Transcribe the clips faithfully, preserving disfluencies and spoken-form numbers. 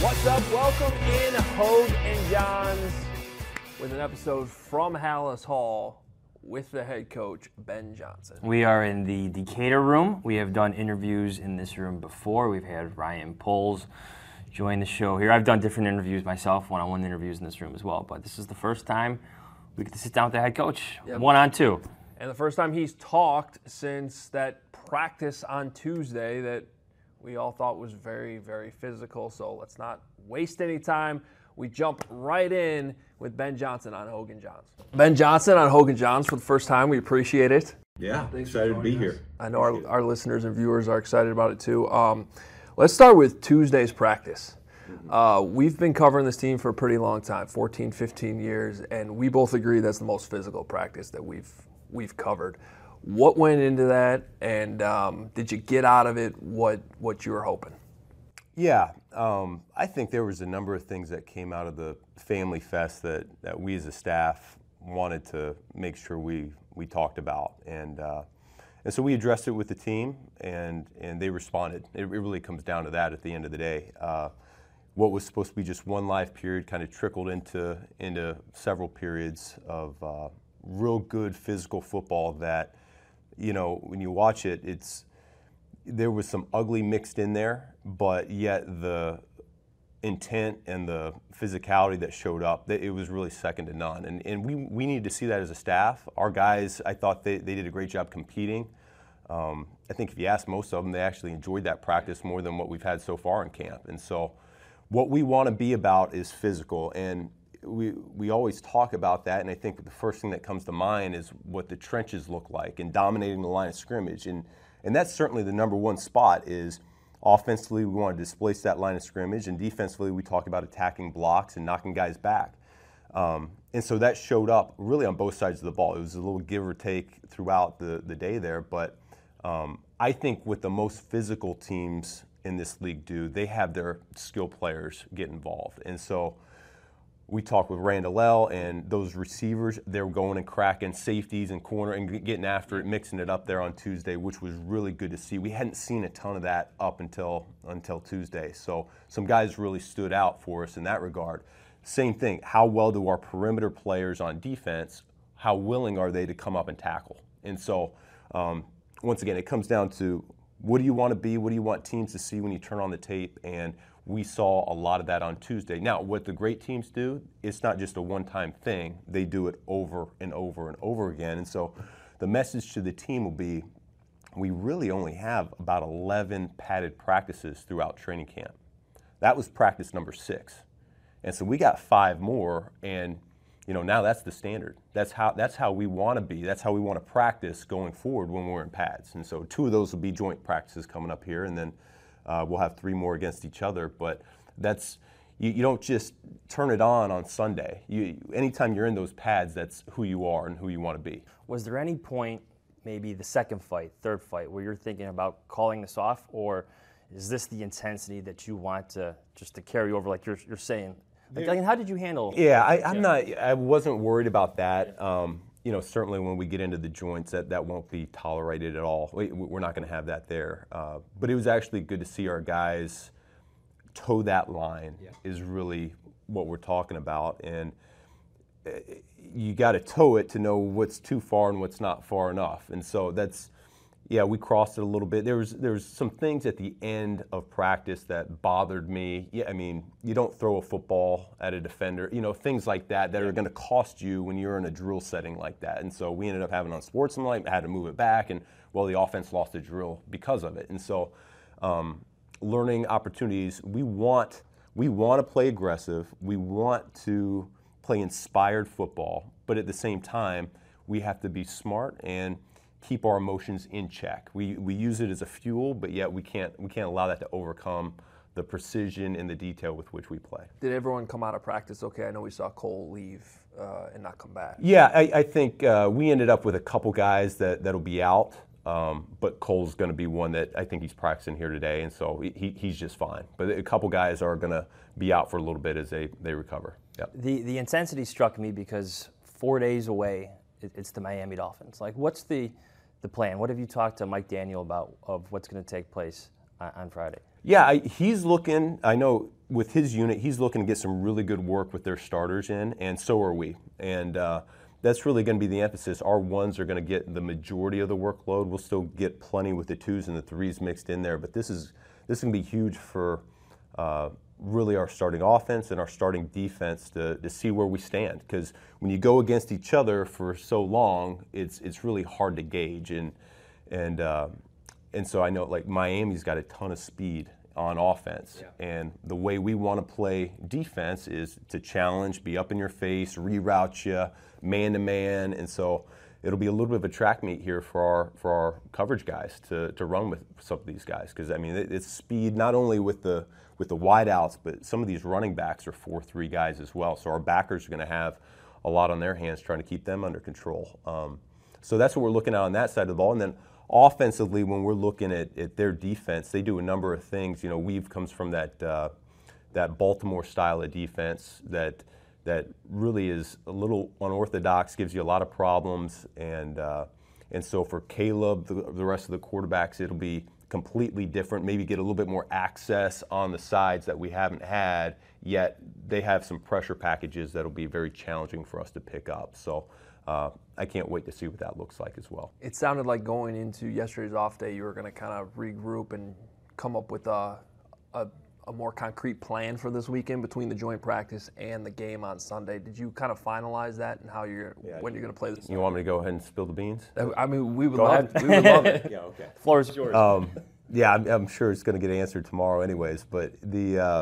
What's up? Welcome in Hogue and Johns with an episode from Halas Hall with the head coach, Ben Johnson. We are in the Decatur room. We have done interviews in this room before. We've had Ryan Poles join the show here. I've done different interviews myself, one-on-one interviews in this room as well, but this is the first time we get to sit down with the head coach, Yep. one-on-two. And the first time he's talked since that practice on Tuesday that we all thought was very, very physical. So let's not waste any time. We jump right in with Ben Johnson on Hogue and Johns. Ben Johnson on Hogue and Johns for the first time. We appreciate it. Yeah, excited to be here. I know our, our listeners and viewers are excited about it too. Um, let's start with Tuesday's practice. Uh, we've been covering this team for a pretty long time, fourteen, fifteen years, and we both agree that's the most physical practice that we've we've covered. What went into that, and um, did you get out of it what what you were hoping? Yeah, um, I think there was a number of things that came out of the Family Fest that, that we as a staff wanted to make sure we, we talked about. And uh, and so we addressed it with the team, and, and they responded. It, it really comes down to that at the end of the day. Uh, what was supposed to be just one live period kind of trickled into, into several periods of uh, real good physical football that, you know, when you watch it, it's there was some ugly mixed in there, but yet the intent and the physicality that showed up, it was really second to none. And and we, we needed to see that as a staff. Our guys, I thought they, they did a great job competing. Um, I think if you ask most of them, they actually enjoyed that practice more than what we've had so far in camp. And so what we want to be about is physical. And we we always talk about that, and I think the first thing that comes to mind is what the trenches look like and dominating the line of scrimmage. And and that's certainly the number one spot is offensively we want to displace that line of scrimmage, and defensively we talk about attacking blocks and knocking guys back. Um, and so that showed up really on both sides of the ball. It was a little give or take throughout the, the day there, but um, I think what the most physical teams in this league do, they have their skill players get involved. And so we talked with Randall L. and those receivers, they were going and cracking safeties and corner and getting after it, mixing it up there on Tuesday, which was really good to see. We hadn't seen a ton of that up until until Tuesday. So some guys really stood out for us in that regard. Same thing, how well do our perimeter players on defense, how willing are they to come up and tackle? And so um, once again, it comes down to what do you want to be, what do you want teams to see when you turn on the tape, and we saw a lot of that on Tuesday. Now, what the great teams do, it's not just a one-time thing. They do it over and over and over again. And so the message to the team will be, we really only have about eleven padded practices throughout training camp. That was practice number six. And so we got five more, and you know, now that's the standard. That's how that's how we want to be. That's how we want to practice going forward when we're in pads. And so two of those will be joint practices coming up here, and then Uh, we'll have three more against each other, but that's you, you don't just turn it on on Sunday. You, anytime you're in those pads, that's who you are and who you want to be. Was there any point, maybe the second fight, third fight, where you're thinking about calling this off, or is this the intensity that you want to just to carry over, like you're you're saying? Like, like, how did you handle? Yeah, I, I'm not. I wasn't worried about that. Um, you know, certainly when we get into the joints, that, that won't be tolerated at all. We, we're not going to have that there. Uh, but it was actually good to see our guys toe that line. Yeah. Is really what we're talking about. And you got to toe it to know what's too far and what's not far enough. And so that's, yeah, we crossed it a little bit. There was there was some things at the end of practice that bothered me. Yeah, I mean, you don't throw a football at a defender, you know, things like that that are going to cost you when you're in a drill setting like that. And so we ended up having unsportsmanlike, had to move it back, and well, the offense lost the drill because of it. And so, um, learning opportunities. We want we want to play aggressive. We want to play inspired football, but at the same time, we have to be smart and keep our emotions in check. We we use it as a fuel, but yet we can't we can't allow that to overcome the precision and the detail with which we play. Did everyone come out of practice okay? I know we saw Cole leave uh, and not come back. Yeah, I, I think uh, we ended up with a couple guys that, that'll be out, um, but Cole's going to be one that I think he's practicing here today, and so he, he's just fine. But a couple guys are going to be out for a little bit as they, they recover. Yep. The, the intensity struck me because four days away, it, it's the Miami Dolphins. Like, what's the the plan? What have you talked to Mike Daniel about of what's going to take place on, on Friday? Yeah, I, he's looking, I know with his unit, he's looking to get some really good work with their starters in, and so are we. And uh, that's really going to be the emphasis. Our ones are going to get the majority of the workload. We'll still get plenty with the twos and the threes mixed in there, but this is this is going to be huge for uh, really our starting offense and our starting defense to, to see where we stand. Because when you go against each other for so long, it's it's really hard to gauge. And and uh, and so I know like Miami's got a ton of speed on offense, yeah. And the way we want to play defense is to challenge, be up in your face, reroute you, man to man, and so it'll be a little bit of a track meet here for our for our coverage guys to, to run with some of these guys, because I mean it, it's speed not only with the with the wideouts, but some of these running backs are four three guys as well. So our backers are going to have a lot on their hands trying to keep them under control. Um, so that's what we're looking at on that side of the ball, and then. Offensively, when we're looking at, at their defense, they do a number of things. You know, Weave comes from that uh, that Baltimore style of defense that that really is a little unorthodox, gives you a lot of problems, and uh, and so for Caleb, the, the rest of the quarterbacks, it'll be completely different. Maybe get a little bit more access on the sides that we haven't had yet. They have some pressure packages that'll be very challenging for us to pick up. So. Uh, I can't wait to see what that looks like as well. It sounded like going into yesterday's off day, you were going to kind of regroup and come up with a, a, a more concrete plan for this weekend between the joint practice and the game on Sunday. Did you kind of finalize that and how you're yeah, when you're going to play this? You want me to go ahead and spill the beans? I mean, we would go love it. We would love it. Yeah, okay. Floor is yours. Um, yeah, I'm, I'm sure it's going to get answered tomorrow, anyways. But the uh,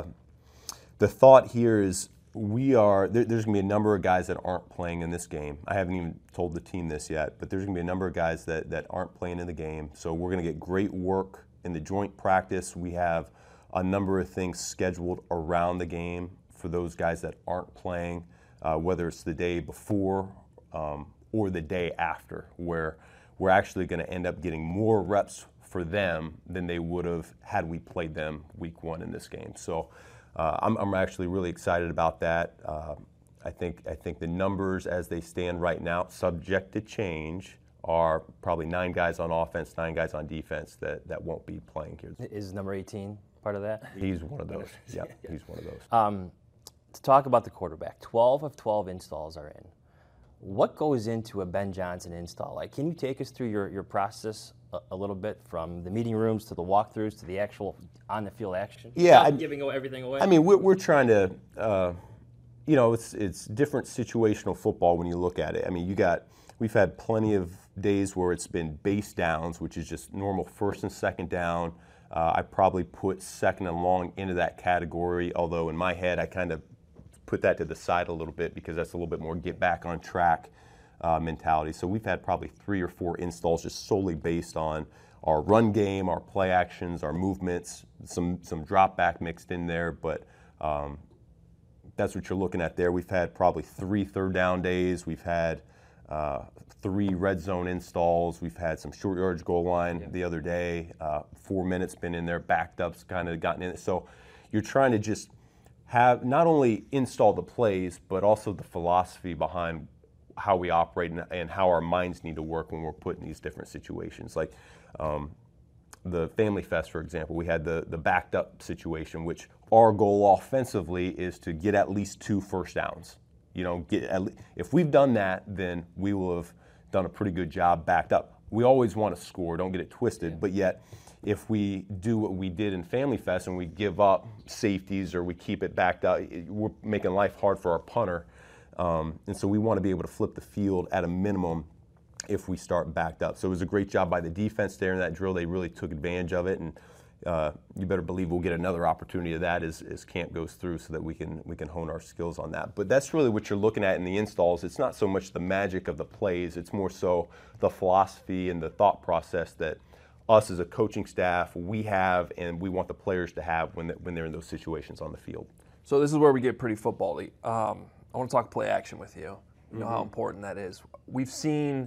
the thought here is. We are, there, there's going to be a number of guys that aren't playing in this game. I haven't even told the team this yet, but there's going to be a number of guys that, that aren't playing in the game. So we're going to get great work in the joint practice. We have a number of things scheduled around the game for those guys that aren't playing, uh, whether it's the day before um, or the day after, where we're actually going to end up getting more reps for them than they would have had we played them week one in this game. So. Uh, I'm, I'm actually really excited about that. Uh, I think I think the numbers as they stand right now, subject to change, are probably nine guys on offense, nine guys on defense that, that won't be playing here. Is number eighteen part of that? He's one of those. Yeah, yeah. He's one of those. Um, to talk about the quarterback, twelve of twelve installs are in. What goes into a Ben Johnson install? Like, can you take us through your, your process a, a little bit, from the meeting rooms to the walkthroughs to the actual on-the-field action? Yeah, Not giving everything away. I mean, we're, we're trying to, uh, you know, it's it's different situational football when you look at it. I mean, you got we've had plenty of days where it's been base downs, which is just normal first and second down. Uh, I probably put second and long into that category, although in my head I kind of put that to the side a little bit because that's a little bit more get back on track uh, mentality. So we've had probably three or four installs just solely based on our run game, our play actions, our movements, some some drop back mixed in there, but um, that's what you're looking at there. We've had probably three third down days. We've had uh, three red zone installs. We've had some short yardage goal line yeah. the other day. Uh, four minutes been in there, backed up's kind of gotten in it. So you're trying to just have not only install the plays, but also the philosophy behind how we operate and, and how our minds need to work when we're put in these different situations. Like um, the Family Fest, for example, we had the, the backed up situation, which our goal offensively is to get at least two first downs. You know, get at le- if we've done that, then we will have done a pretty good job backed up. We always want to score, don't get it twisted, yeah. but yet if we do what we did in Family Fest and we give up safeties or we keep it backed up, we're making life hard for our punter. Um, and so we want to be able to flip the field at a minimum if we start backed up. So it was a great job by the defense there in that drill. They really took advantage of it, and uh, you better believe we'll get another opportunity of that as, as camp goes through so that we can we can hone our skills on that. But that's really what you're looking at in the installs. It's not so much the magic of the plays. It's more so the philosophy and the thought process that us as a coaching staff, we have and we want the players to have when, when they're in those situations on the field. So this is where we get pretty football-y. Um, I want to talk play action with you. You know mm-hmm. how important that is. We've seen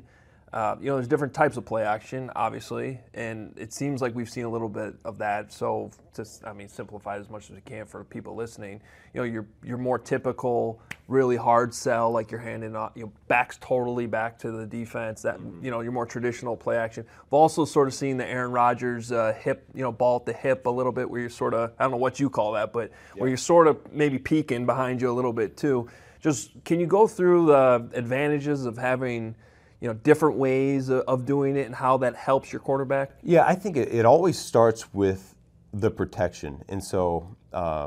Uh, you know, there's different types of play action, obviously, and it seems like we've seen a little bit of that. So, to, I mean, simplify it as much as we can for people listening. You know, your your more typical, really hard sell, like you're handing off, you know, backs totally back to the defense. That you know, your more traditional play action. We've also sort of seen the Aaron Rodgers uh, hip, you know, ball at the hip a little bit, where you're sort of, I don't know what you call that, but yeah. where you're sort of maybe peeking behind you a little bit too. Just can you go through the advantages of having, you know, different ways of doing it and how that helps your quarterback? Yeah, I think it, it always starts with the protection. And so uh,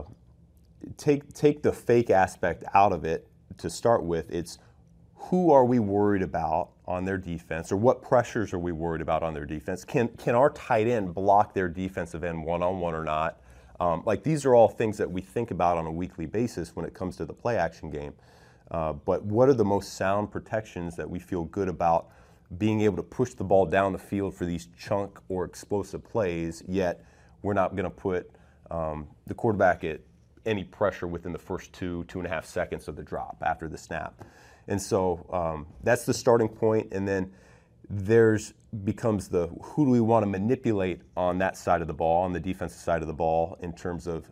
take take the fake aspect out of it to start with. It's who are we worried about on their defense, or what pressures are we worried about on their defense? Can can our tight end block their defensive end one-on-one or not? Um, like these are all things that we think about on a weekly basis when it comes to the play action game. Uh, but what are the most sound protections that we feel good about being able to push the ball down the field for these chunk or explosive plays, yet we're not going to put um, the quarterback at any pressure within the first two, two and a half seconds of the drop after the snap. And so um, that's the starting point. And then there's becomes the who do we want to manipulate on that side of the ball, on the defensive side of the ball, in terms of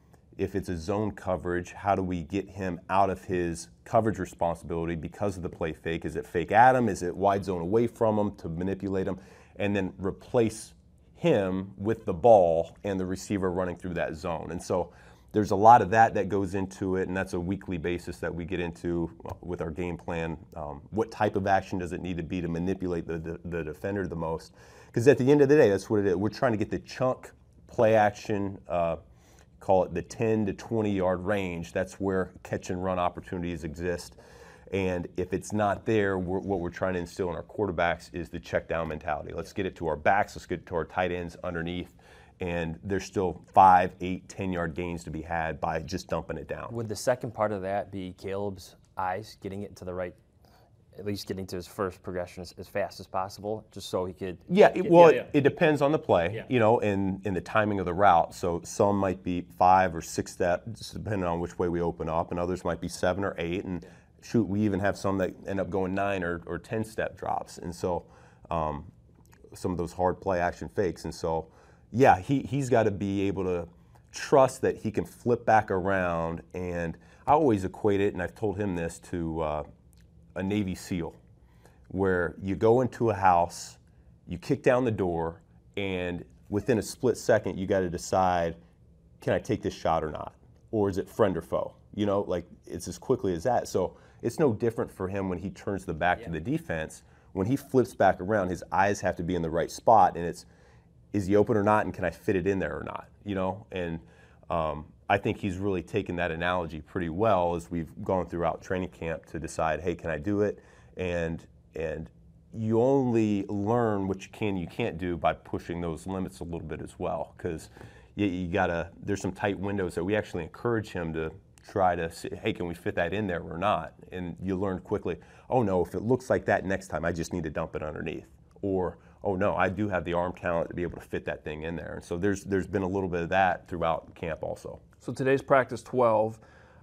if it's a zone coverage, how do we get him out of his coverage responsibility because of the play fake? Is it fake at him? Is it wide zone away from him to manipulate him? And then replace him with the ball and the receiver running through that zone. And so there's a lot of that that goes into it, and that's a weekly basis that we get into with our game plan. Um, what type of action does it need to be to manipulate the, the, the defender the most? Because at the end of the day, that's what it is. We're trying to get the chunk play action, uh, call it the ten to twenty yard range. That's where catch and run opportunities exist. And if it's not there, we're, what we're trying to instill in our quarterbacks is the check down mentality. Let's get it to our backs, let's get it to our tight ends underneath. And there's still five, eight, ten yard gains to be had by just dumping it down. Would the second part of that be Caleb's eyes, getting it to the right, at least getting to his first progression as, as fast as possible, just so he could? Yeah, get, it, well, yeah, yeah. It, it depends on the play, yeah. you know, and, and the timing of the route. So some might be five or six steps, depending on which way we open up, and others might be seven or eight. And yeah. shoot, we even have some that end up going nine or, or ten step drops. And so um, some of those hard play action fakes. And so, yeah, he, he's got to be able to trust that he can flip back around. And I always equate it, and I've told him this, to uh, a Navy SEAL, where you go into a house, you kick down the door, and within a split second, you got to decide, can I take this shot or not? Or is it friend or foe? You know, like it's as quickly as that. So it's no different for him when he turns the back yeah. to the defense. When he flips back around, his eyes have to be in the right spot, and it's, is he open or not, and can I fit it in there or not? You know, and um, I think he's really taken that analogy pretty well as we've gone throughout training camp to decide, hey, can I do it? And and you only learn what you can and you can't do by pushing those limits a little bit as well, because you, you gotta, there's some tight windows that we actually encourage him to try to say, hey, can we fit that in there or not? And you learn quickly, oh no, if it looks like that next time, I just need to dump it underneath. Or, oh no, I do have the arm talent to be able to fit that thing in there. And so there's there's been a little bit of that throughout camp also. So today's practice twelve,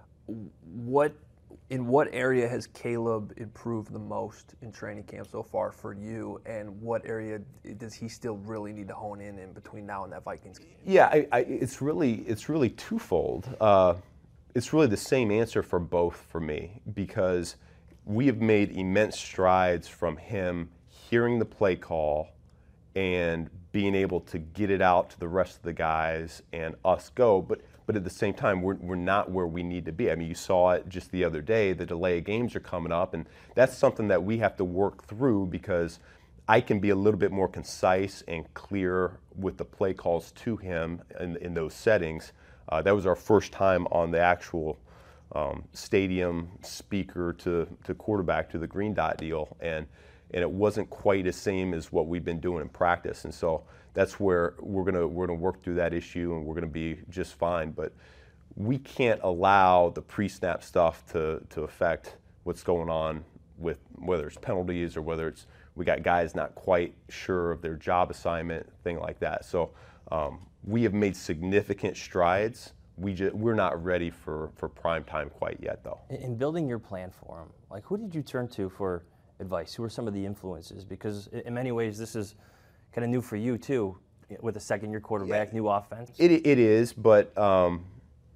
what in what area has Caleb improved the most in training camp so far for you, and what area does he still really need to hone in in between now and that Vikings game? Yeah, I, I, it's really it's really twofold. Uh, it's really the same answer for both for me, because we have made immense strides from him hearing the play call and being able to get it out to the rest of the guys and us go, but but at the same time, we're we're not where we need to be. I mean, you saw it just the other day, the delay of games are coming up, and that's something that we have to work through, because I can be a little bit more concise and clear with the play calls to him in, in those settings. Uh, that was our first time on the actual um, stadium speaker to, to quarterback to the green dot deal, and and it wasn't quite the same as what we've been doing in practice. And so that's where we're gonna we're gonna work through that issue, and we're gonna be just fine. But we can't allow the pre-snap stuff to to affect what's going on with whether it's penalties or whether it's we got guys not quite sure of their job assignment, thing like that. So um, we have made significant strides. We just, we're not ready for, for prime time quite yet, though. In building your plan for him, like who did you turn to for advice? Who are some of the influences? Because in many ways, this is kind of new for you too, with a second-year quarterback, yeah. new offense. It it is, but um,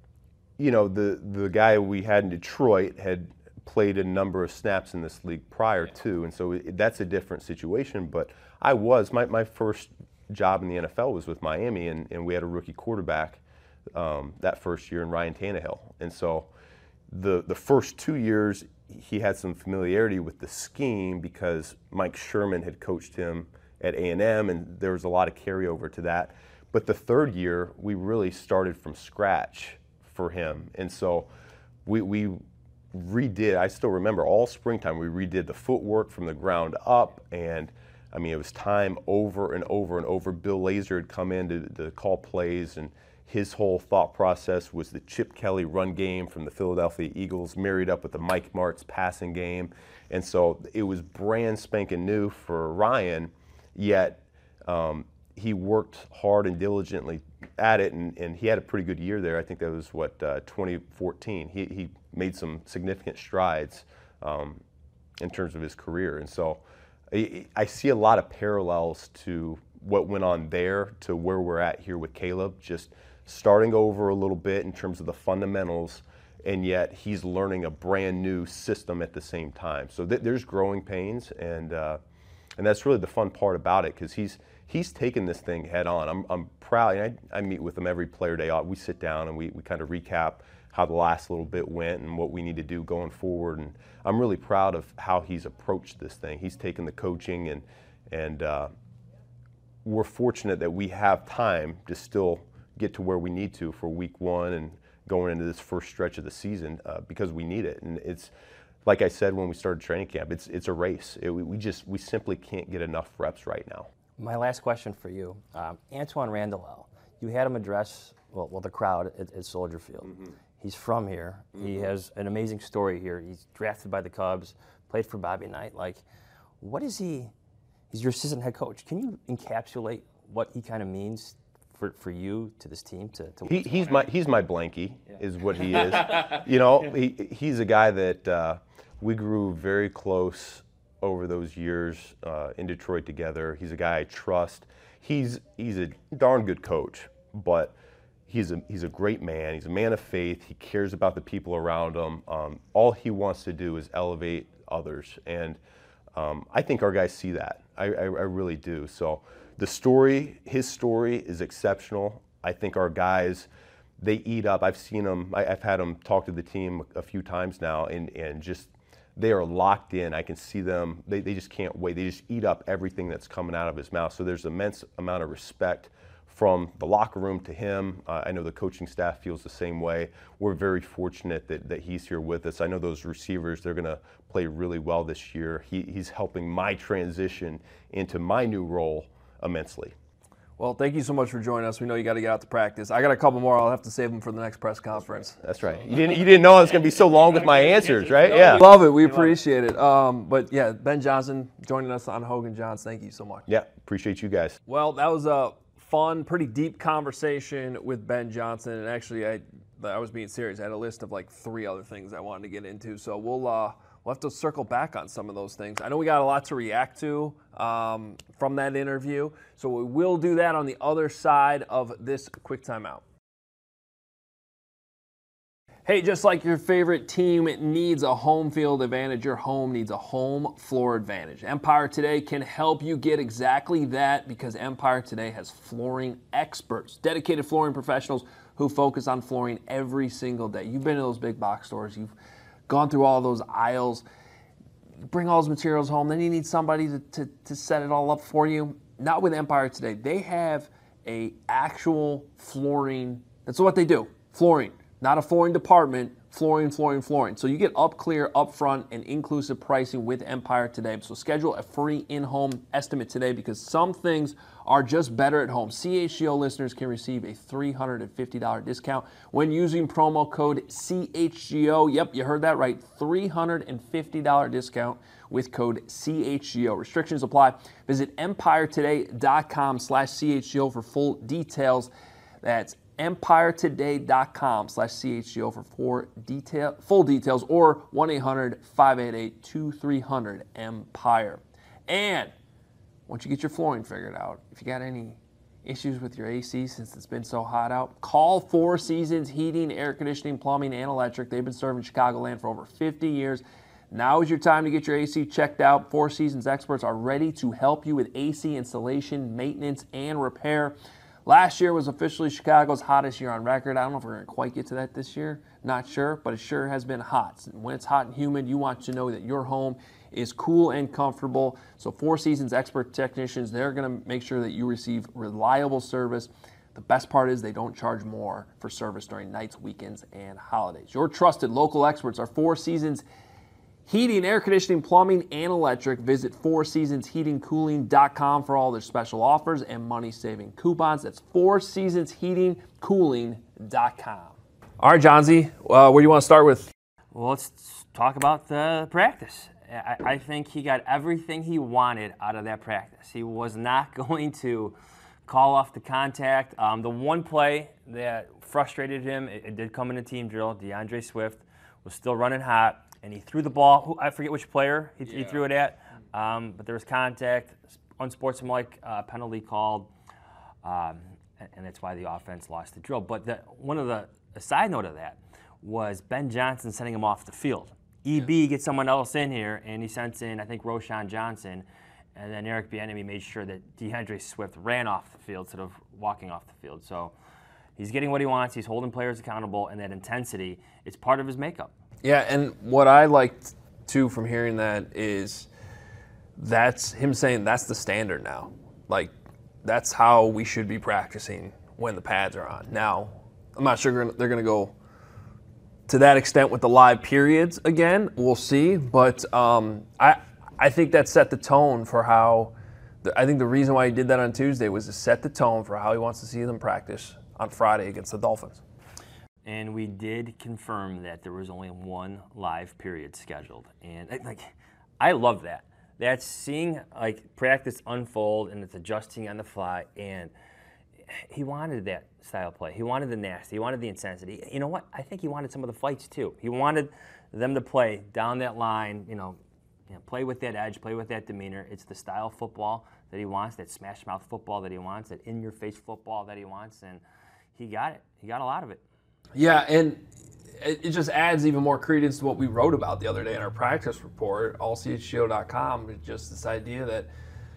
you know, the the guy we had in Detroit had played a number of snaps in this league prior yeah. to, and so it, that's a different situation. But I was my my first job in the N F L was with Miami, and, and we had a rookie quarterback um, that first year in Ryan Tannehill, and so the the first two years he had some familiarity with the scheme because Mike Sherman had coached him at A and M, and there was a lot of carryover to that. But the third year, we really started from scratch for him. And so we, we redid, I still remember all springtime, we redid the footwork from the ground up. And I mean, it was time over and over and over. Bill Lazor had come in to, to call plays, and his whole thought process was the Chip Kelly run game from the Philadelphia Eagles married up with the Mike Martz passing game. And so it was brand spanking new for Ryan, yet um, he worked hard and diligently at it, and, and he had a pretty good year there. I think that was, what, uh, twenty fourteen. He, he made some significant strides um, in terms of his career. And so I, I see a lot of parallels to what went on there to where we're at here with Caleb, just starting over a little bit in terms of the fundamentals, and yet he's learning a brand new system at the same time. So th- there's growing pains, and uh, and that's really the fun part about it, because he's he's taken this thing head on. I'm I'm proud. I, I meet with him every player day. We sit down and we, we kind of recap how the last little bit went and what we need to do going forward. And I'm really proud of how he's approached this thing. He's taken the coaching, and and uh, we're fortunate that we have time to still get to where we need to for week one and going into this first stretch of the season uh, because we need it. And it's, like I said when we started training camp, it's it's a race. It, we just, we simply can't get enough reps right now. My last question for you, um, Antwaan Randall, you had him address, well, well the crowd at, at Soldier Field. Mm-hmm. He's from here. Mm-hmm. He has an amazing story here. He's drafted by the Cubs, played for Bobby Knight. Like, what is he, he's your assistant head coach. Can you encapsulate what he kind of means For, for you to this team to, to he, he's my he's my blankie yeah. is what he is. You know, he he's a guy that uh, we grew very close over those years uh, in Detroit together. He's a guy I trust. He's he's a darn good coach, but he's a he's a great man. He's a man of faith. He cares about the people around him. Um, all he wants to do is elevate others, and um, I think our guys see that. I, I, I really do. So. The story, his story is exceptional. I think our guys, they eat up. I've seen them, I, I've had them talk to the team a few times now, and, and just, they are locked in. I can see them, they, they just can't wait. They just eat up everything that's coming out of his mouth. So there's immense amount of respect from the locker room to him. Uh, I know the coaching staff feels the same way. We're very fortunate that, that he's here with us. I know those receivers, they're gonna play really well this year. He, he's helping my transition into my new role immensely. Well, thank you so much for joining us. We know you got to get out to practice. I got a couple more. I'll have to save them for the next press conference. That's right. You didn't you didn't know I was going to be so long with my answers, right? Yeah. Love it. We appreciate it. Um, but yeah, Ben Johnson joining us on Hogan Johns. Thank you so much. Yeah, appreciate you guys. Well, that was a fun, pretty deep conversation with Ben Johnson. And actually, I I was being serious. I had a list of like three other things I wanted to get into. So we'll uh, we'll have to circle back on some of those things. I know we got a lot to react to um, from that interview. So we will do that on the other side of this quick timeout. Hey, just like your favorite team needs a home field advantage, your home needs a home floor advantage. Empire Today can help you get exactly that, because Empire Today has flooring experts, dedicated flooring professionals who focus on flooring every single day. You've been to those big box stores. You've gone through all those aisles. You bring all those materials home. Then you need somebody to, to, to set it all up for you. Not with Empire Today. They have a actual flooring. That's what they do. Flooring. Not a flooring department. Flooring, flooring, flooring. So you get up clear, upfront, and inclusive pricing with Empire Today. So schedule a free in-home estimate today, because some things are just better at home. C H G O listeners can receive a three hundred fifty dollars discount when using promo code C H G O. Yep, you heard that right. three hundred fifty dollars discount with code C H G O. Restrictions apply. Visit empiretoday.com slash CHGO for full details. That's empire today dot com slash C H G O for four detail, full details, or one eight hundred five eight eight two three zero zero empire. And once you get your flooring figured out, if you got any issues with your A C since it's been so hot out, call Four Seasons Heating, Air Conditioning, Plumbing, and Electric. They've been serving Chicagoland for over fifty years. Now is your time to get your A C checked out. Four Seasons experts are ready to help you with A C installation, maintenance, and repair. Last year was officially Chicago's hottest year on record. I don't know if we're going to quite get to that this year. Not sure, but it sure has been hot. And when it's hot and humid, you want to know that your home is cool and comfortable. So Four Seasons expert technicians, they're going to make sure that you receive reliable service. The best part is they don't charge more for service during nights, weekends, and holidays. Your trusted local experts are Four Seasons Heating, Air Conditioning, Plumbing, and Electric. Visit four seasons heating cooling dot com for all their special offers and money-saving coupons. That's four seasons heating cooling dot com. All right, Johnsy, uh, where do you want to start with? Well, let's talk about the practice. I, I think he got everything he wanted out of that practice. He was not going to call off the contact. Um, the one play that frustrated him, it, it did come in a team drill. DeAndre Swift was still running hot. And he threw the ball. Who, I forget which player he, yeah. he threw it at, um, but there was contact, unsportsmanlike uh, penalty called, um, and, and that's why the offense lost the drill. But the, one of the a side note of that was Ben Johnson sending him off the field. E B yeah. gets someone else in here, and he sends in I think Roshan Johnson, and then Eric Bieniemy made sure that DeAndre Swift ran off the field instead of walking off the field. So he's getting what he wants. He's holding players accountable, and that intensity is part of his makeup. Yeah, and what I liked, too, from hearing that is that's him saying that's the standard now. Like, that's how we should be practicing when the pads are on. Now, I'm not sure they're going to go to that extent with the live periods again. We'll see. But um, I I think that set the tone for how – I think the reason why he did that on Tuesday was to set the tone for how he wants to see them practice on Friday against the Dolphins. And we did confirm that there was only one live period scheduled, and like, I love that. That's seeing like practice unfold, and it's adjusting on the fly. And he wanted that style of play. He wanted the nasty. He wanted the intensity. You know what? I think he wanted some of the fights too. He wanted them to play down that line. You know, you know play with that edge, play with that demeanor. It's the style of football that he wants. That smash mouth football that he wants. That in your face football that he wants, and he got it. He got a lot of it. Yeah, and it just adds even more credence to what we wrote about the other day in our practice report, all C H G O dot com. Just this idea that,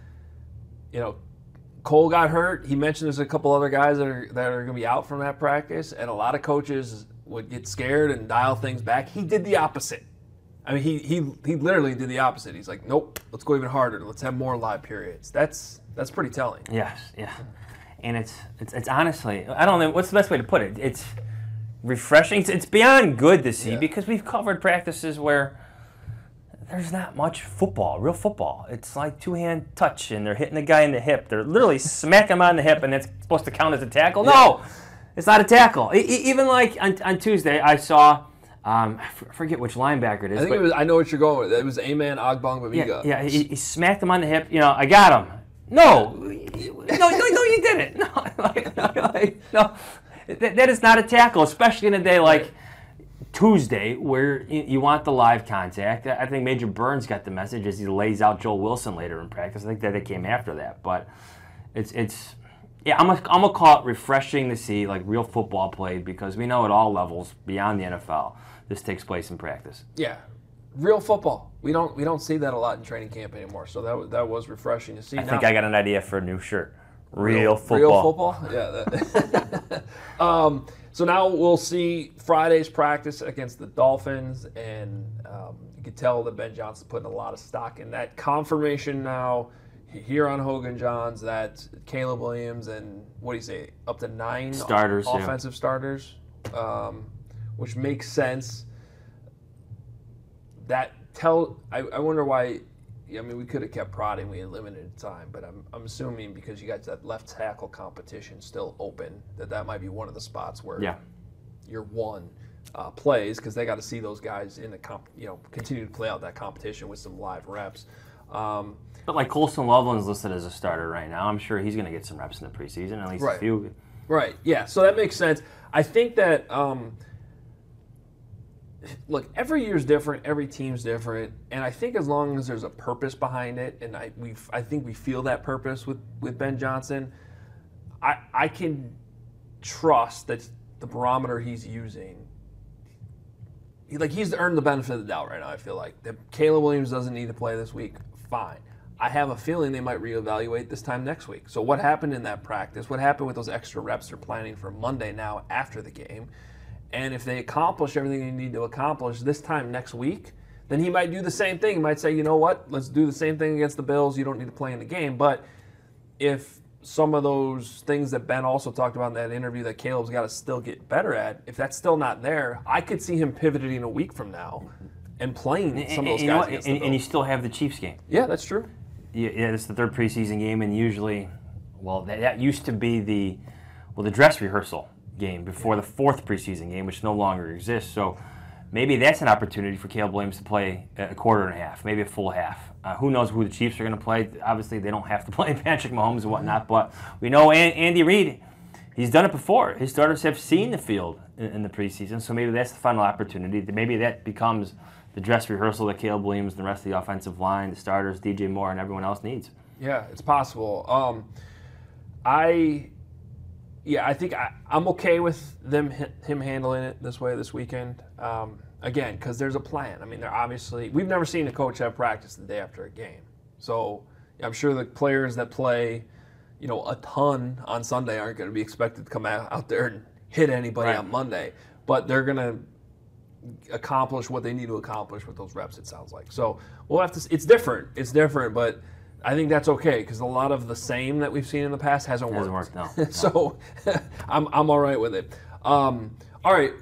you know, Cole got hurt. He mentioned there's a couple other guys that are that are going to be out from that practice, and a lot of coaches would get scared and dial things back. He did the opposite. I mean, he he he literally did the opposite. He's like, nope, let's go even harder. Let's have more live periods. That's that's pretty telling. Yes, yeah, and it's it's it's honestly, I don't know what's the best way to put it. It's refreshing. It's beyond good to see yeah. because we've covered practices where there's not much football, real football. It's like two-hand touch, and they're hitting the guy in the hip. They're literally smacking him on the hip, and it's supposed to count as a tackle. Yeah. No, it's not a tackle. E- even like on, on Tuesday, I saw, um, I forget which linebacker it is. I think but it was. I know what you're going with. It was Amen Ogbongbemiga. Yeah, yeah he, he smacked him on the hip. You know, I got him. No, no, no, no, you didn't. No, like, like, no. That, that is not a tackle, especially in a day like Tuesday where you, you want the live contact. I think Major Burns got the message as he lays out Joel Wilson later in practice. I think that it came after that. But it's, it's yeah, I'm going I'm to call it refreshing to see like real football played because we know at all levels beyond the N F L this takes place in practice. Yeah, real football. We don't we don't see that a lot in training camp anymore, so that, that was refreshing to see. I now, think I got an idea for a new shirt. Real, real football. Real football? Yeah. That. um, so now we'll see Friday's practice against the Dolphins, and um, you can tell that Ben Johnson's putting a lot of stock in that confirmation now here on Hogan Johns that Caleb Williams and, what do you say, up to nine starters, o- offensive yeah. starters, um, which makes sense. That tell I, I wonder why. I mean, we could have kept prodding. We had limited time, but I'm I'm assuming because you got that left tackle competition still open, that that might be one of the spots where yeah. your one uh, plays because they got to see those guys in the comp, you know, continue to play out that competition with some live reps. Um, but like Colson Loveland's listed as a starter right now. I'm sure he's going to get some reps in the preseason, at least right. a few. Right. Yeah. So that makes sense. I think that um, look, every year's different, every team's different, and I think as long as there's a purpose behind it, and I we I think we feel that purpose with, with Ben Johnson, I I can trust that the barometer he's using, he, like he's earned the benefit of the doubt right now. I feel like that Caleb Williams doesn't need to play this week. Fine. I have a feeling they might reevaluate this time next week. So what happened in that practice? What happened with those extra reps they're planning for Monday now after the game? And if they accomplish everything they need to accomplish this time next week, then he might do the same thing. He might say, you know what, let's do the same thing against the Bills. You don't need to play in the game. But if some of those things that Ben also talked about in that interview that Caleb's got to still get better at, if that's still not there, I could see him pivoting a week from now and playing some of those and, guys you know, against and, the Bills. and you still have the Chiefs game. Yeah, that's true. Yeah, yeah, it's the third preseason game, and usually, well, that, that used to be the, well, the dress rehearsal game before the fourth preseason game, which no longer exists. So maybe that's an opportunity for Caleb Williams to play a quarter and a half, maybe a full half. Uh, who knows who the Chiefs are going to play? Obviously, they don't have to play Patrick Mahomes and whatnot, but we know Andy Reid, he's done it before. His starters have seen the field in, in the preseason, so maybe that's the final opportunity. Maybe that becomes the dress rehearsal that Caleb Williams and the rest of the offensive line, the starters, D J Moore, and everyone else needs. Yeah, it's possible. Um, I, yeah, I think I, I'm okay with them him handling it this way this weekend. Um, again, because there's a plan. I mean, they're obviously we've never seen a coach have practice the day after a game. So I'm sure the players that play, you know, a ton on Sunday aren't going to be expected to come out, out there and hit anybody Right. on Monday, but they're going to accomplish what they need to accomplish with those reps, it sounds like. So we'll have to, it's different, it's different, but I think that's okay because a lot of the same that we've seen in the past hasn't, Hasn't worked. worked, no. So I'm, I'm all right with it. Um, all right,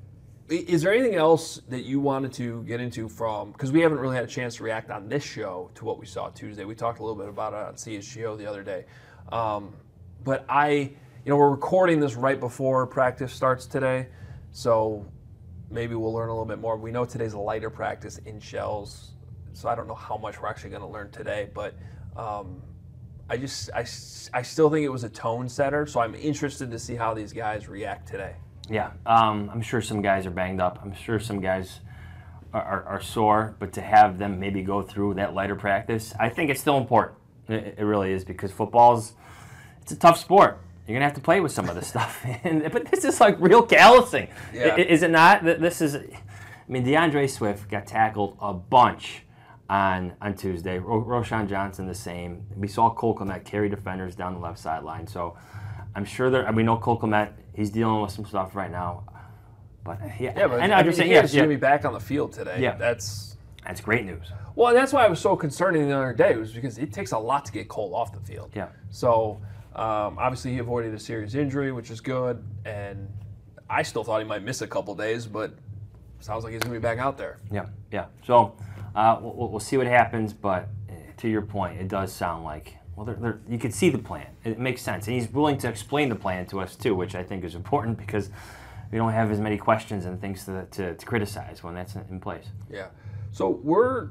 is there anything else that you wanted to get into from, because we haven't really had a chance to react on this show to what we saw Tuesday. We talked a little bit about it on C H G O the other day. Um, but I, you know, we're recording this right before practice starts today, so maybe we'll learn a little bit more. We know today's a lighter practice in shells, so I don't know how much we're actually going to learn today. But um, I just, I, I still think it was a tone setter, so I'm interested to see how these guys react today. Yeah, um, I'm sure some guys are banged up. I'm sure some guys are, are, are sore, but to have them maybe go through that lighter practice, I think it's still important. It, it really is, because football's, it's a tough sport. You're going to have to play with some of this stuff. and, but this is like real callousing. Yeah. Is it not? This is, I mean, DeAndre Swift got tackled a bunch on on Tuesday. Ro- Roschon Johnson the same. We saw Cole Kmet carry defenders down the left sideline. So I'm sure there, we know Cole Kmet, he's dealing with some stuff right now. But yeah, Yeah, but and I I'm mean, just saying, yeah, yeah, he's yeah, going to be back on the field today. Yeah. That's that's great news. well, and that's why I was so concerning the other day, was because it takes a lot to get Cole off the field. Yeah. So um, obviously he avoided a serious injury, which is good, and I still thought he might miss a couple days, but sounds like he's going to be back out there. Yeah, yeah. So uh, we'll, we'll see what happens, but uh, to your point, it does sound like, well, they're, they're, you can see the plan. It makes sense. And he's willing to explain the plan to us, too, which I think is important because we don't have as many questions and things to, to, to criticize when that's in place. Yeah. So we're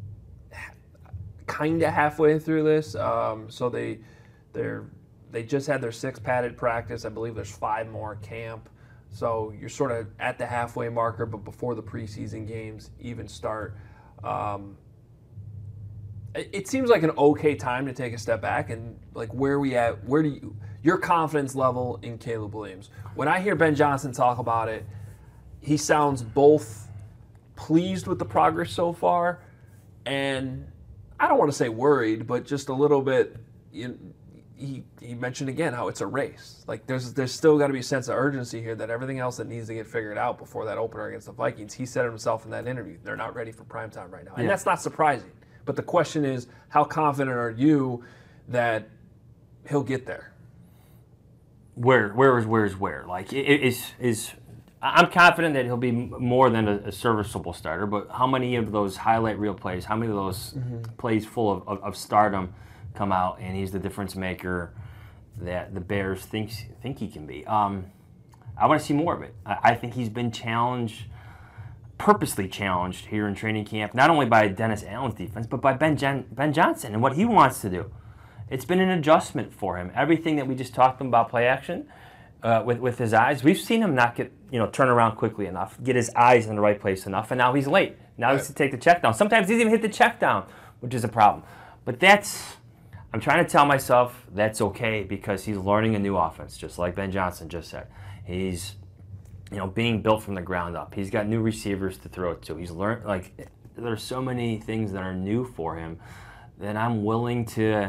kind of halfway through this. Um, so they they're they just had their sixth padded practice. I believe there's five more camp. So you're sort of at the halfway marker, but before the preseason games even start. Um, it, it seems like an okay time to take a step back and like where we at. Where do you your confidence level in Caleb Williams? When I hear Ben Johnson talk about it, he sounds both pleased with the progress so far, and I don't want to say worried, but just a little bit. You know, he he mentioned again how it's a race. Like there's there's still got to be a sense of urgency here that everything else that needs to get figured out before that opener against the Vikings. He said himself in that interview, they're not ready for primetime right now, and Yeah. that's not surprising. But the question is, how confident are you that he'll get there? Where, where is, where is where? Like, it, it is is. I'm confident that he'll be more than a, a serviceable starter, but how many of those highlight reel plays, how many of those mm-hmm. plays full of, of, of stardom come out and he's the difference maker that the Bears think, think he can be? Um, I want to see more of it. I, I think he's been challenged, purposely challenged here in training camp, not only by Dennis Allen's defense, but by Ben, Jen, Ben Johnson and what he wants to do. It's been an adjustment for him. Everything that we just talked about, play action, uh, with with his eyes. We've seen him not get you know turn around quickly enough, get his eyes in the right place enough, and now he's late. Now he has to take the check down. Sometimes he doesn't even hit the check down, which is a problem. But that's, I'm trying to tell myself that's okay because he's learning a new offense, just like Ben Johnson just said. He's, you know, being built from the ground up. He's got new receivers to throw it to. He's learned, like, there's so many things that are new for him that I'm willing to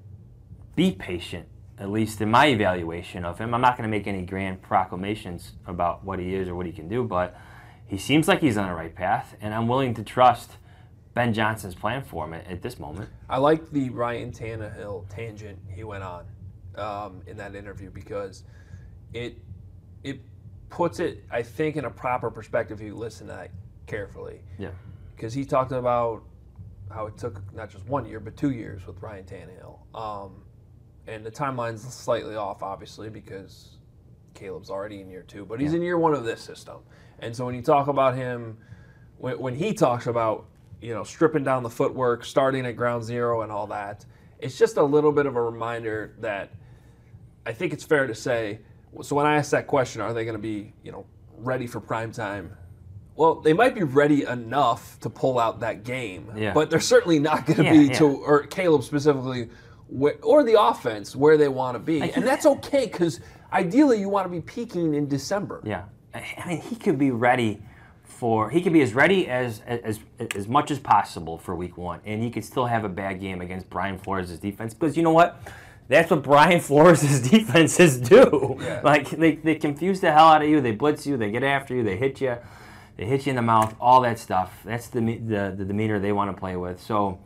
be patient, at least in my evaluation of him. I'm not going to make any grand proclamations about what he is or what he can do, but he seems like he's on the right path, and I'm willing to trust Ben Johnson's plan for him at, at this moment. I like the Ryan Tannehill tangent he went on um, in that interview because it it puts it, I think, in a proper perspective if you listen to that carefully. Yeah. Because he talked about how it took not just one year, but two years with Ryan Tannehill. Um, and the timeline's slightly off, obviously, because Caleb's already in year two, but he's Yeah. in year one of this system. And so when you talk about him, when, when he talks about, you know, stripping down the footwork, starting at ground zero and all that, it's just a little bit of a reminder that I think it's fair to say, so when I ask that question, are they going to be, you know, ready for prime time? Well, they might be ready enough to pull out that game, Yeah. but they're certainly not going to Yeah, be, yeah. to, or Caleb specifically, wh- or the offense, where they want to be. And that's okay, because ideally you want to be peaking in December. Yeah. I mean, he could be ready for, he could be as ready as, as as much as possible for week one, and he could still have a bad game against Brian Flores' defense, because you know what? That's what Brian Flores' defenses do. Yeah. Like, they, they confuse the hell out of you, they blitz you, they get after you, they hit you, they hit you in the mouth, all that stuff. That's the the, the demeanor they want to play with. So,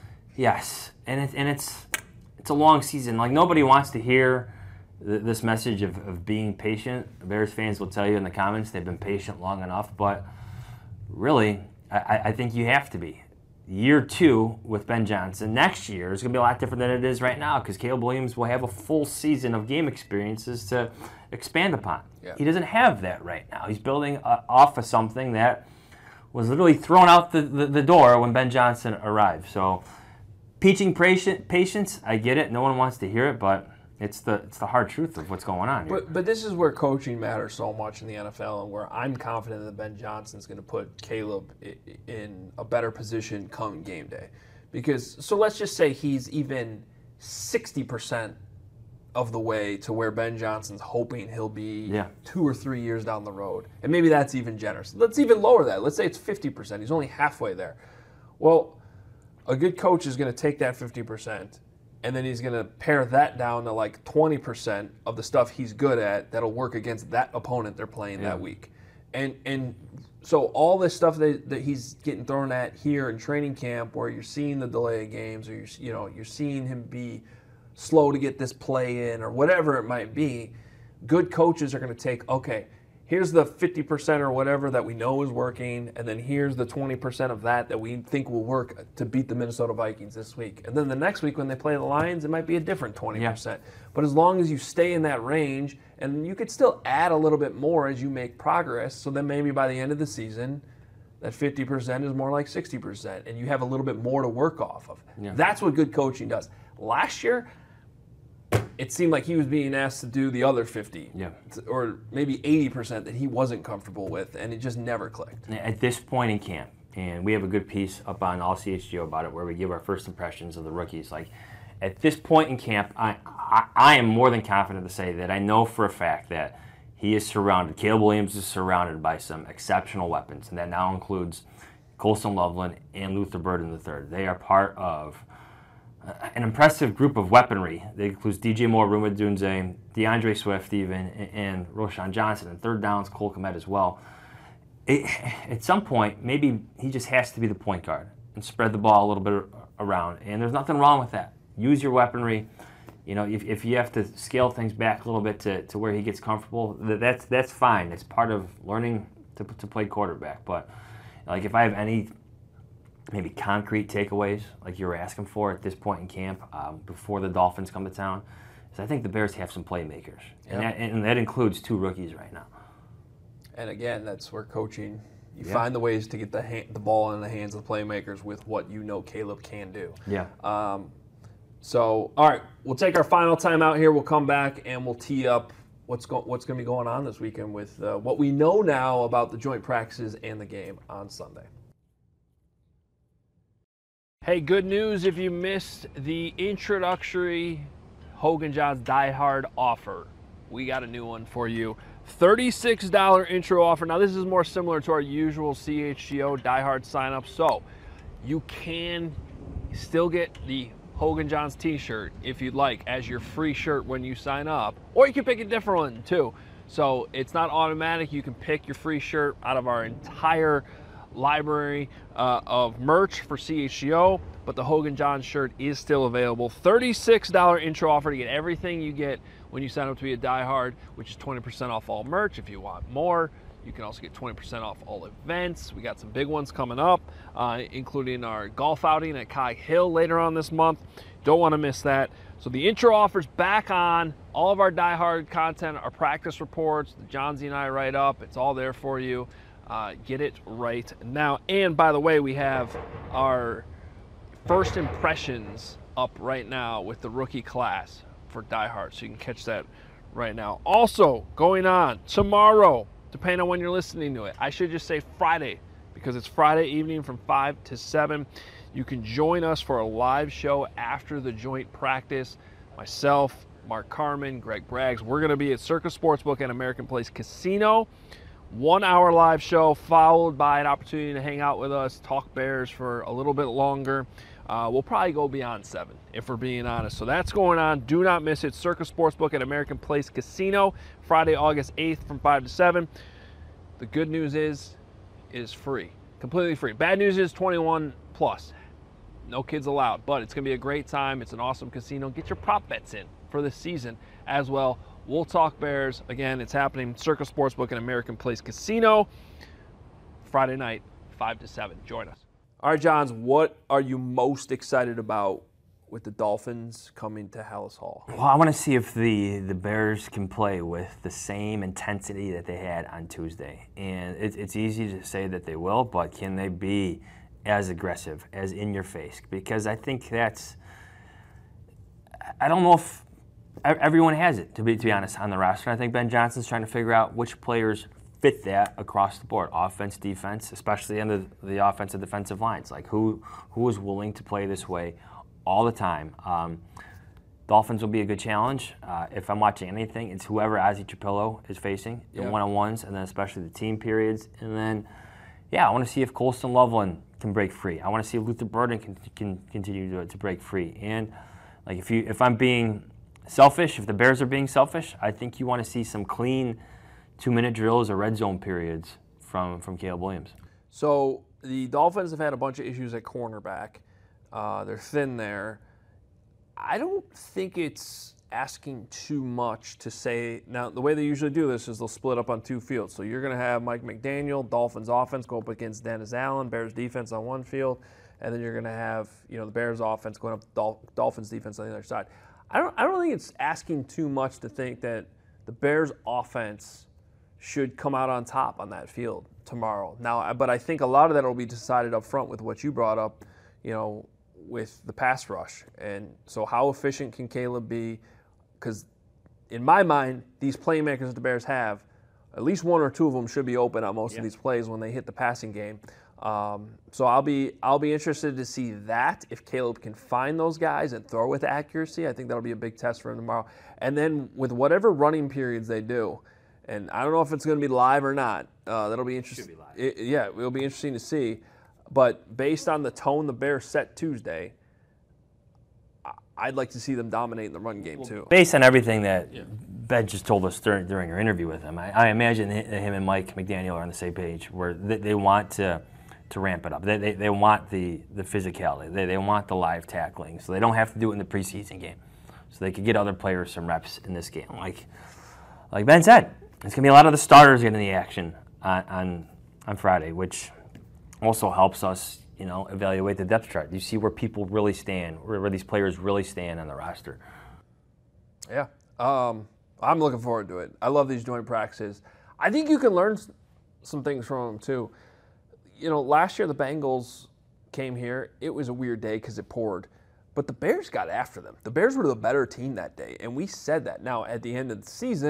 yes, and, it, and it's it's a long season. Like, nobody wants to hear this message of, of being patient. Bears fans will tell you in the comments they've been patient long enough, but really, I, I think you have to be. Year two with Ben Johnson next year is going to be a lot different than it is right now because Caleb Williams will have a full season of game experiences to expand upon. Yeah. He doesn't have that right now. He's building uh, off of something that was literally thrown out the, the, the door when Ben Johnson arrived. So, teaching patient, patience, I get it. No one wants to hear it, but It's the it's the hard truth of what's going on here. But but this is where coaching matters so much in the N F L, and where I'm confident that Ben Johnson's going to put Caleb in a better position come game day. Because, so let's just say he's even sixty percent of the way to where Ben Johnson's hoping he'll be Yeah. two or three years down the road. And maybe that's even generous. Let's even lower that. Let's say it's fifty percent. He's only halfway there. Well, a good coach is going to take that fifty percent and then he's going to pare that down to like twenty percent of the stuff he's good at that'll work against that opponent they're playing Yeah. that week. And and so all this stuff that, that he's getting thrown at here in training camp, where you're seeing the delay of games, or you're, you know, you're seeing him be slow to get this play in, or whatever it might be, good coaches are going to take, okay, here's the fifty percent or whatever that we know is working, and then here's the twenty percent of that that we think will work to beat the Minnesota Vikings this week. And then the next week when they play the Lions, it might be a different twenty percent. Yeah. But as long as you stay in that range, and you could still add a little bit more as you make progress, so then maybe by the end of the season, that fifty percent is more like sixty percent, and you have a little bit more to work off of. Yeah. That's what good coaching does. Last year, it seemed like he was being asked to do the other fifty, yeah. or maybe eighty percent that he wasn't comfortable with, and it just never clicked. At this point in camp, and we have a good piece up on All C H G O about it where we give our first impressions of the rookies. Like, at this point in camp, I, I, I am more than confident to say that I know for a fact that he is surrounded, Caleb Williams is surrounded by some exceptional weapons, and that now includes Colson Loveland and Luther Burden the third. They are part of an impressive group of weaponry that includes D J Moore, Ruma Dunze, DeAndre Swift even, and Roshan Johnson, and third downs, Cole Kmet as well. It, at some point, maybe he just has to be the point guard and spread the ball a little bit around, and there's nothing wrong with that. Use your weaponry. You know, if, if you have to scale things back a little bit to, to where he gets comfortable, that's that's fine. It's part of learning to to play quarterback. But like, if I have any maybe concrete takeaways like you were asking for at this point in camp, um, before the Dolphins come to town, is I think the Bears have some playmakers, Yep. and, that, and that includes two rookies right now. And again, that's where coaching, you Yeah. find the ways to get the ha- the ball in the hands of the playmakers with what you know Caleb can do. Yeah. Um, so, all right, we'll take our final time out here. We'll come back and we'll tee up what's go, what's going to be going on this weekend with uh, what we know now about the joint practices and the game on Sunday. Hey, good news if you missed the introductory Hogan Johns Die Hard offer. We got a new one for you. thirty-six dollars intro offer. Now, this is more similar to our usual C H G O Die Hard sign-up. So, you can still get the Hogan Johns t-shirt if you'd like as your free shirt when you sign up. Or you can pick a different one, too. So, it's not automatic. You can pick your free shirt out of our entire library uh, of merch for C H G O, but the Hogan Johns shirt is still available. thirty-six dollars intro offer to get everything you get when you sign up to be a Die Hard, which is twenty percent off all merch. If you want more, you can also get twenty percent off all events. We got some big ones coming up, uh, including our golf outing at Cog Hill later on this month. Don't want to miss that. So the intro offer's back on. All of our Die Hard content, our practice reports, the Johnsy and I write up, it's all there for you. Uh, get it right now. And by the way, we have our first impressions up right now with the rookie class for Die Hard, so you can catch that right now. Also going on tomorrow, depending on when you're listening to it, I should just say Friday, because it's Friday evening from five to seven. You can join us for a live show after the joint practice. Myself, Mark Carman, Greg Braggs, we're going to be at Circus Sportsbook and American Place Casino. One hour live show followed by an opportunity to hang out with us, talk Bears for a little bit longer. Uh, we'll probably go beyond seven, if we're being honest. So that's going on. Do not miss it. Circus Sportsbook at American Place Casino, Friday, August eighth from five to seven. The good news is, it is free, completely free. Bad news is twenty-one plus. No kids allowed, but it's going to be a great time. It's an awesome casino. Get your prop bets in for this season as well. We'll talk Bears. Again, it's happening. Circus Sportsbook and American Place Casino, Friday night, five to seven. Join us. All right, Johns, what are you most excited about with the Dolphins coming to Halas Hall? Well, I want to see if the, the Bears can play with the same intensity that they had on Tuesday. And it, it's easy to say that they will, but can they be as aggressive, as in your face? Because I think that's, I don't know if everyone has it, to be to be honest, on the roster. I think Ben Johnson's trying to figure out which players fit that across the board, offense, defense, especially in the, the offensive defensive lines. Like who who is willing to play this way all the time? Um, Dolphins will be a good challenge. Uh, if I'm watching anything, it's whoever Ozzie Trapillo is facing in yeah. one-on-ones, and then especially the team periods. And then, yeah, I want to see if Colston Loveland can break free. I want to see if Luther Burden can, can continue to, to break free. And like if you if I'm being selfish, if the Bears are being selfish, I think you want to see some clean two-minute drills or red zone periods from, from Caleb Williams. So the Dolphins have had a bunch of issues at cornerback. Uh, they're thin there. I don't think it's asking too much to say. Now, the way they usually do this is they'll split up on two fields. So you're going to have Mike McDaniel, Dolphins offense, go up against Dennis Allen, Bears defense on one field, and then you're going to have, you know, the Bears offense going up to Dol- Dolphins defense on the other side. I don't, I don't think it's asking too much to think that the Bears offense should come out on top on that field tomorrow. Now, but I think a lot of that will be decided up front with what you brought up, you know, with the pass rush. And so how efficient can Caleb be? Because in my mind, these playmakers that the Bears have, at least one or two of them should be open on most yeah. of these plays when they hit the passing game. Um, so I'll be I'll be interested to see that, if Caleb can find those guys and throw with accuracy. I think that'll be a big test for him tomorrow. And then with whatever running periods they do, and I don't know if it's going to be live or not. Uh, that'll be interesting. Should be live. It, yeah, it'll be interesting to see. But based on the tone the Bears set Tuesday, I'd like to see them dominate in the run game too. Based on everything that yeah. Ben just told us during, during our interview with him, I, I imagine him and Mike McDaniel are on the same page, where they, they want to to ramp it up. They, they, they want the, the physicality. They, they want the live tackling, so they don't have to do it in the preseason game. So they could get other players some reps in this game. Like like Ben said, it's going to be a lot of the starters getting the action on, on on Friday, which also helps us, you know, evaluate the depth chart. You see where people really stand, where, where these players really stand on the roster. Yeah, um, I'm looking forward to it. I love these joint practices. I think you can learn some things from them too. You know, last year the Bengals came here. It was a weird day because it poured. But the Bears got after them. The Bears were the better team that day, and we said that. Now, at the end of the season,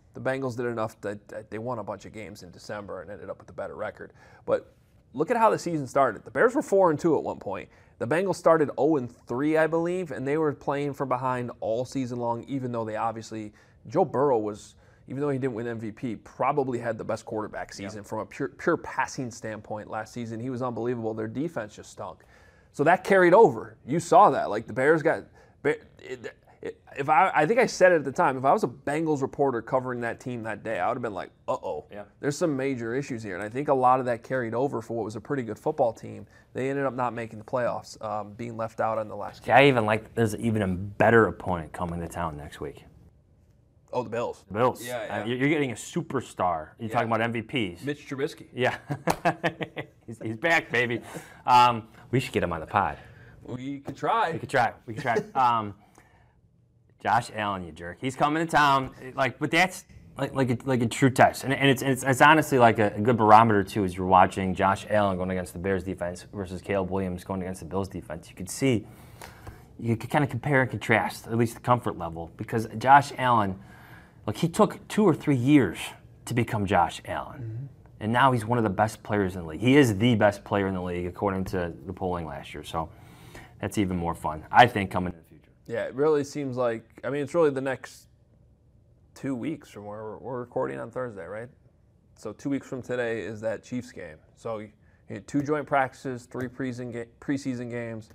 the Bengals did enough that, that they won a bunch of games in December and ended up with a better record. But look at how the season started. The Bears were four and two at one point. The Bengals started oh and three, I believe, and they were playing from behind all season long, even though they obviously, Joe Burrow was, even though he didn't win M V P, probably had the best quarterback season yeah. from a pure, pure passing standpoint last season. He was unbelievable. Their defense just stunk. So that carried over. You saw that. Like, the Bears got it, it, if I I think I said it at the time, if I was a Bengals reporter covering that team that day, I would have been like, uh-oh, yeah. there's some major issues here. And I think a lot of that carried over for what was a pretty good football team. They ended up not making the playoffs, um, being left out on the last game. I even like there's even a better opponent coming to town next week. Oh, the Bills. The Bills. Yeah, yeah. Uh, you're getting a superstar. You're yeah. talking about M V Ps. Mitch Trubisky. Yeah. he's, he's back, baby. Um, we should get him on the pod. We could try. We could try. We could try. um, Josh Allen, you jerk. He's coming to town. Like, but that's like like a, like a true test, and, and it's, it's it's honestly like a, a good barometer too. As you're watching Josh Allen going against the Bears defense versus Caleb Williams going against the Bills defense, you could see, you could kind of compare and contrast, at least the comfort level, because Josh Allen, like he took two or three years to become Josh Allen, mm-hmm. and now he's one of the best players in the league. He is the best player in the league according to the polling last year. So that's even more fun, I think, coming in the future. Yeah, it really seems like, I mean, it's really the next two weeks from where we're, we're recording on Thursday, right? So two weeks from today is that Chiefs game. So you had two joint practices, three preseason, ga- preseason games.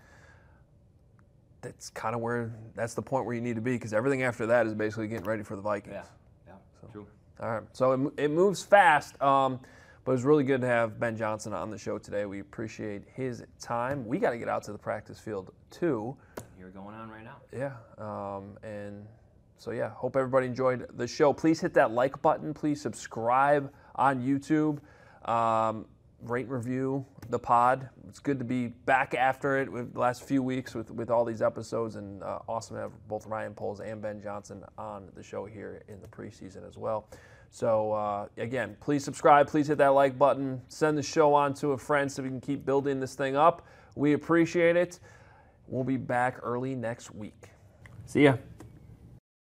That's kind of where, that's the point where you need to be, because everything after that is basically getting ready for the Vikings. Yeah, yeah, so, true. All right, so it, it moves fast, um, but it was really good to have Ben Johnson on the show today. We appreciate his time. We got to get out to the practice field, too. You're going on right now. Yeah, um, and so yeah, hope everybody enjoyed the show. Please hit that like button. Please subscribe on YouTube. Um, rate and review the pod. It's good to be back after it with the last few weeks with, with all these episodes, and uh, awesome to have both Ryan Poles and Ben Johnson on the show here in the preseason as well. So uh, again, please subscribe. Please hit that like button. Send the show on to a friend so we can keep building this thing up. We appreciate it. We'll be back early next week. See ya.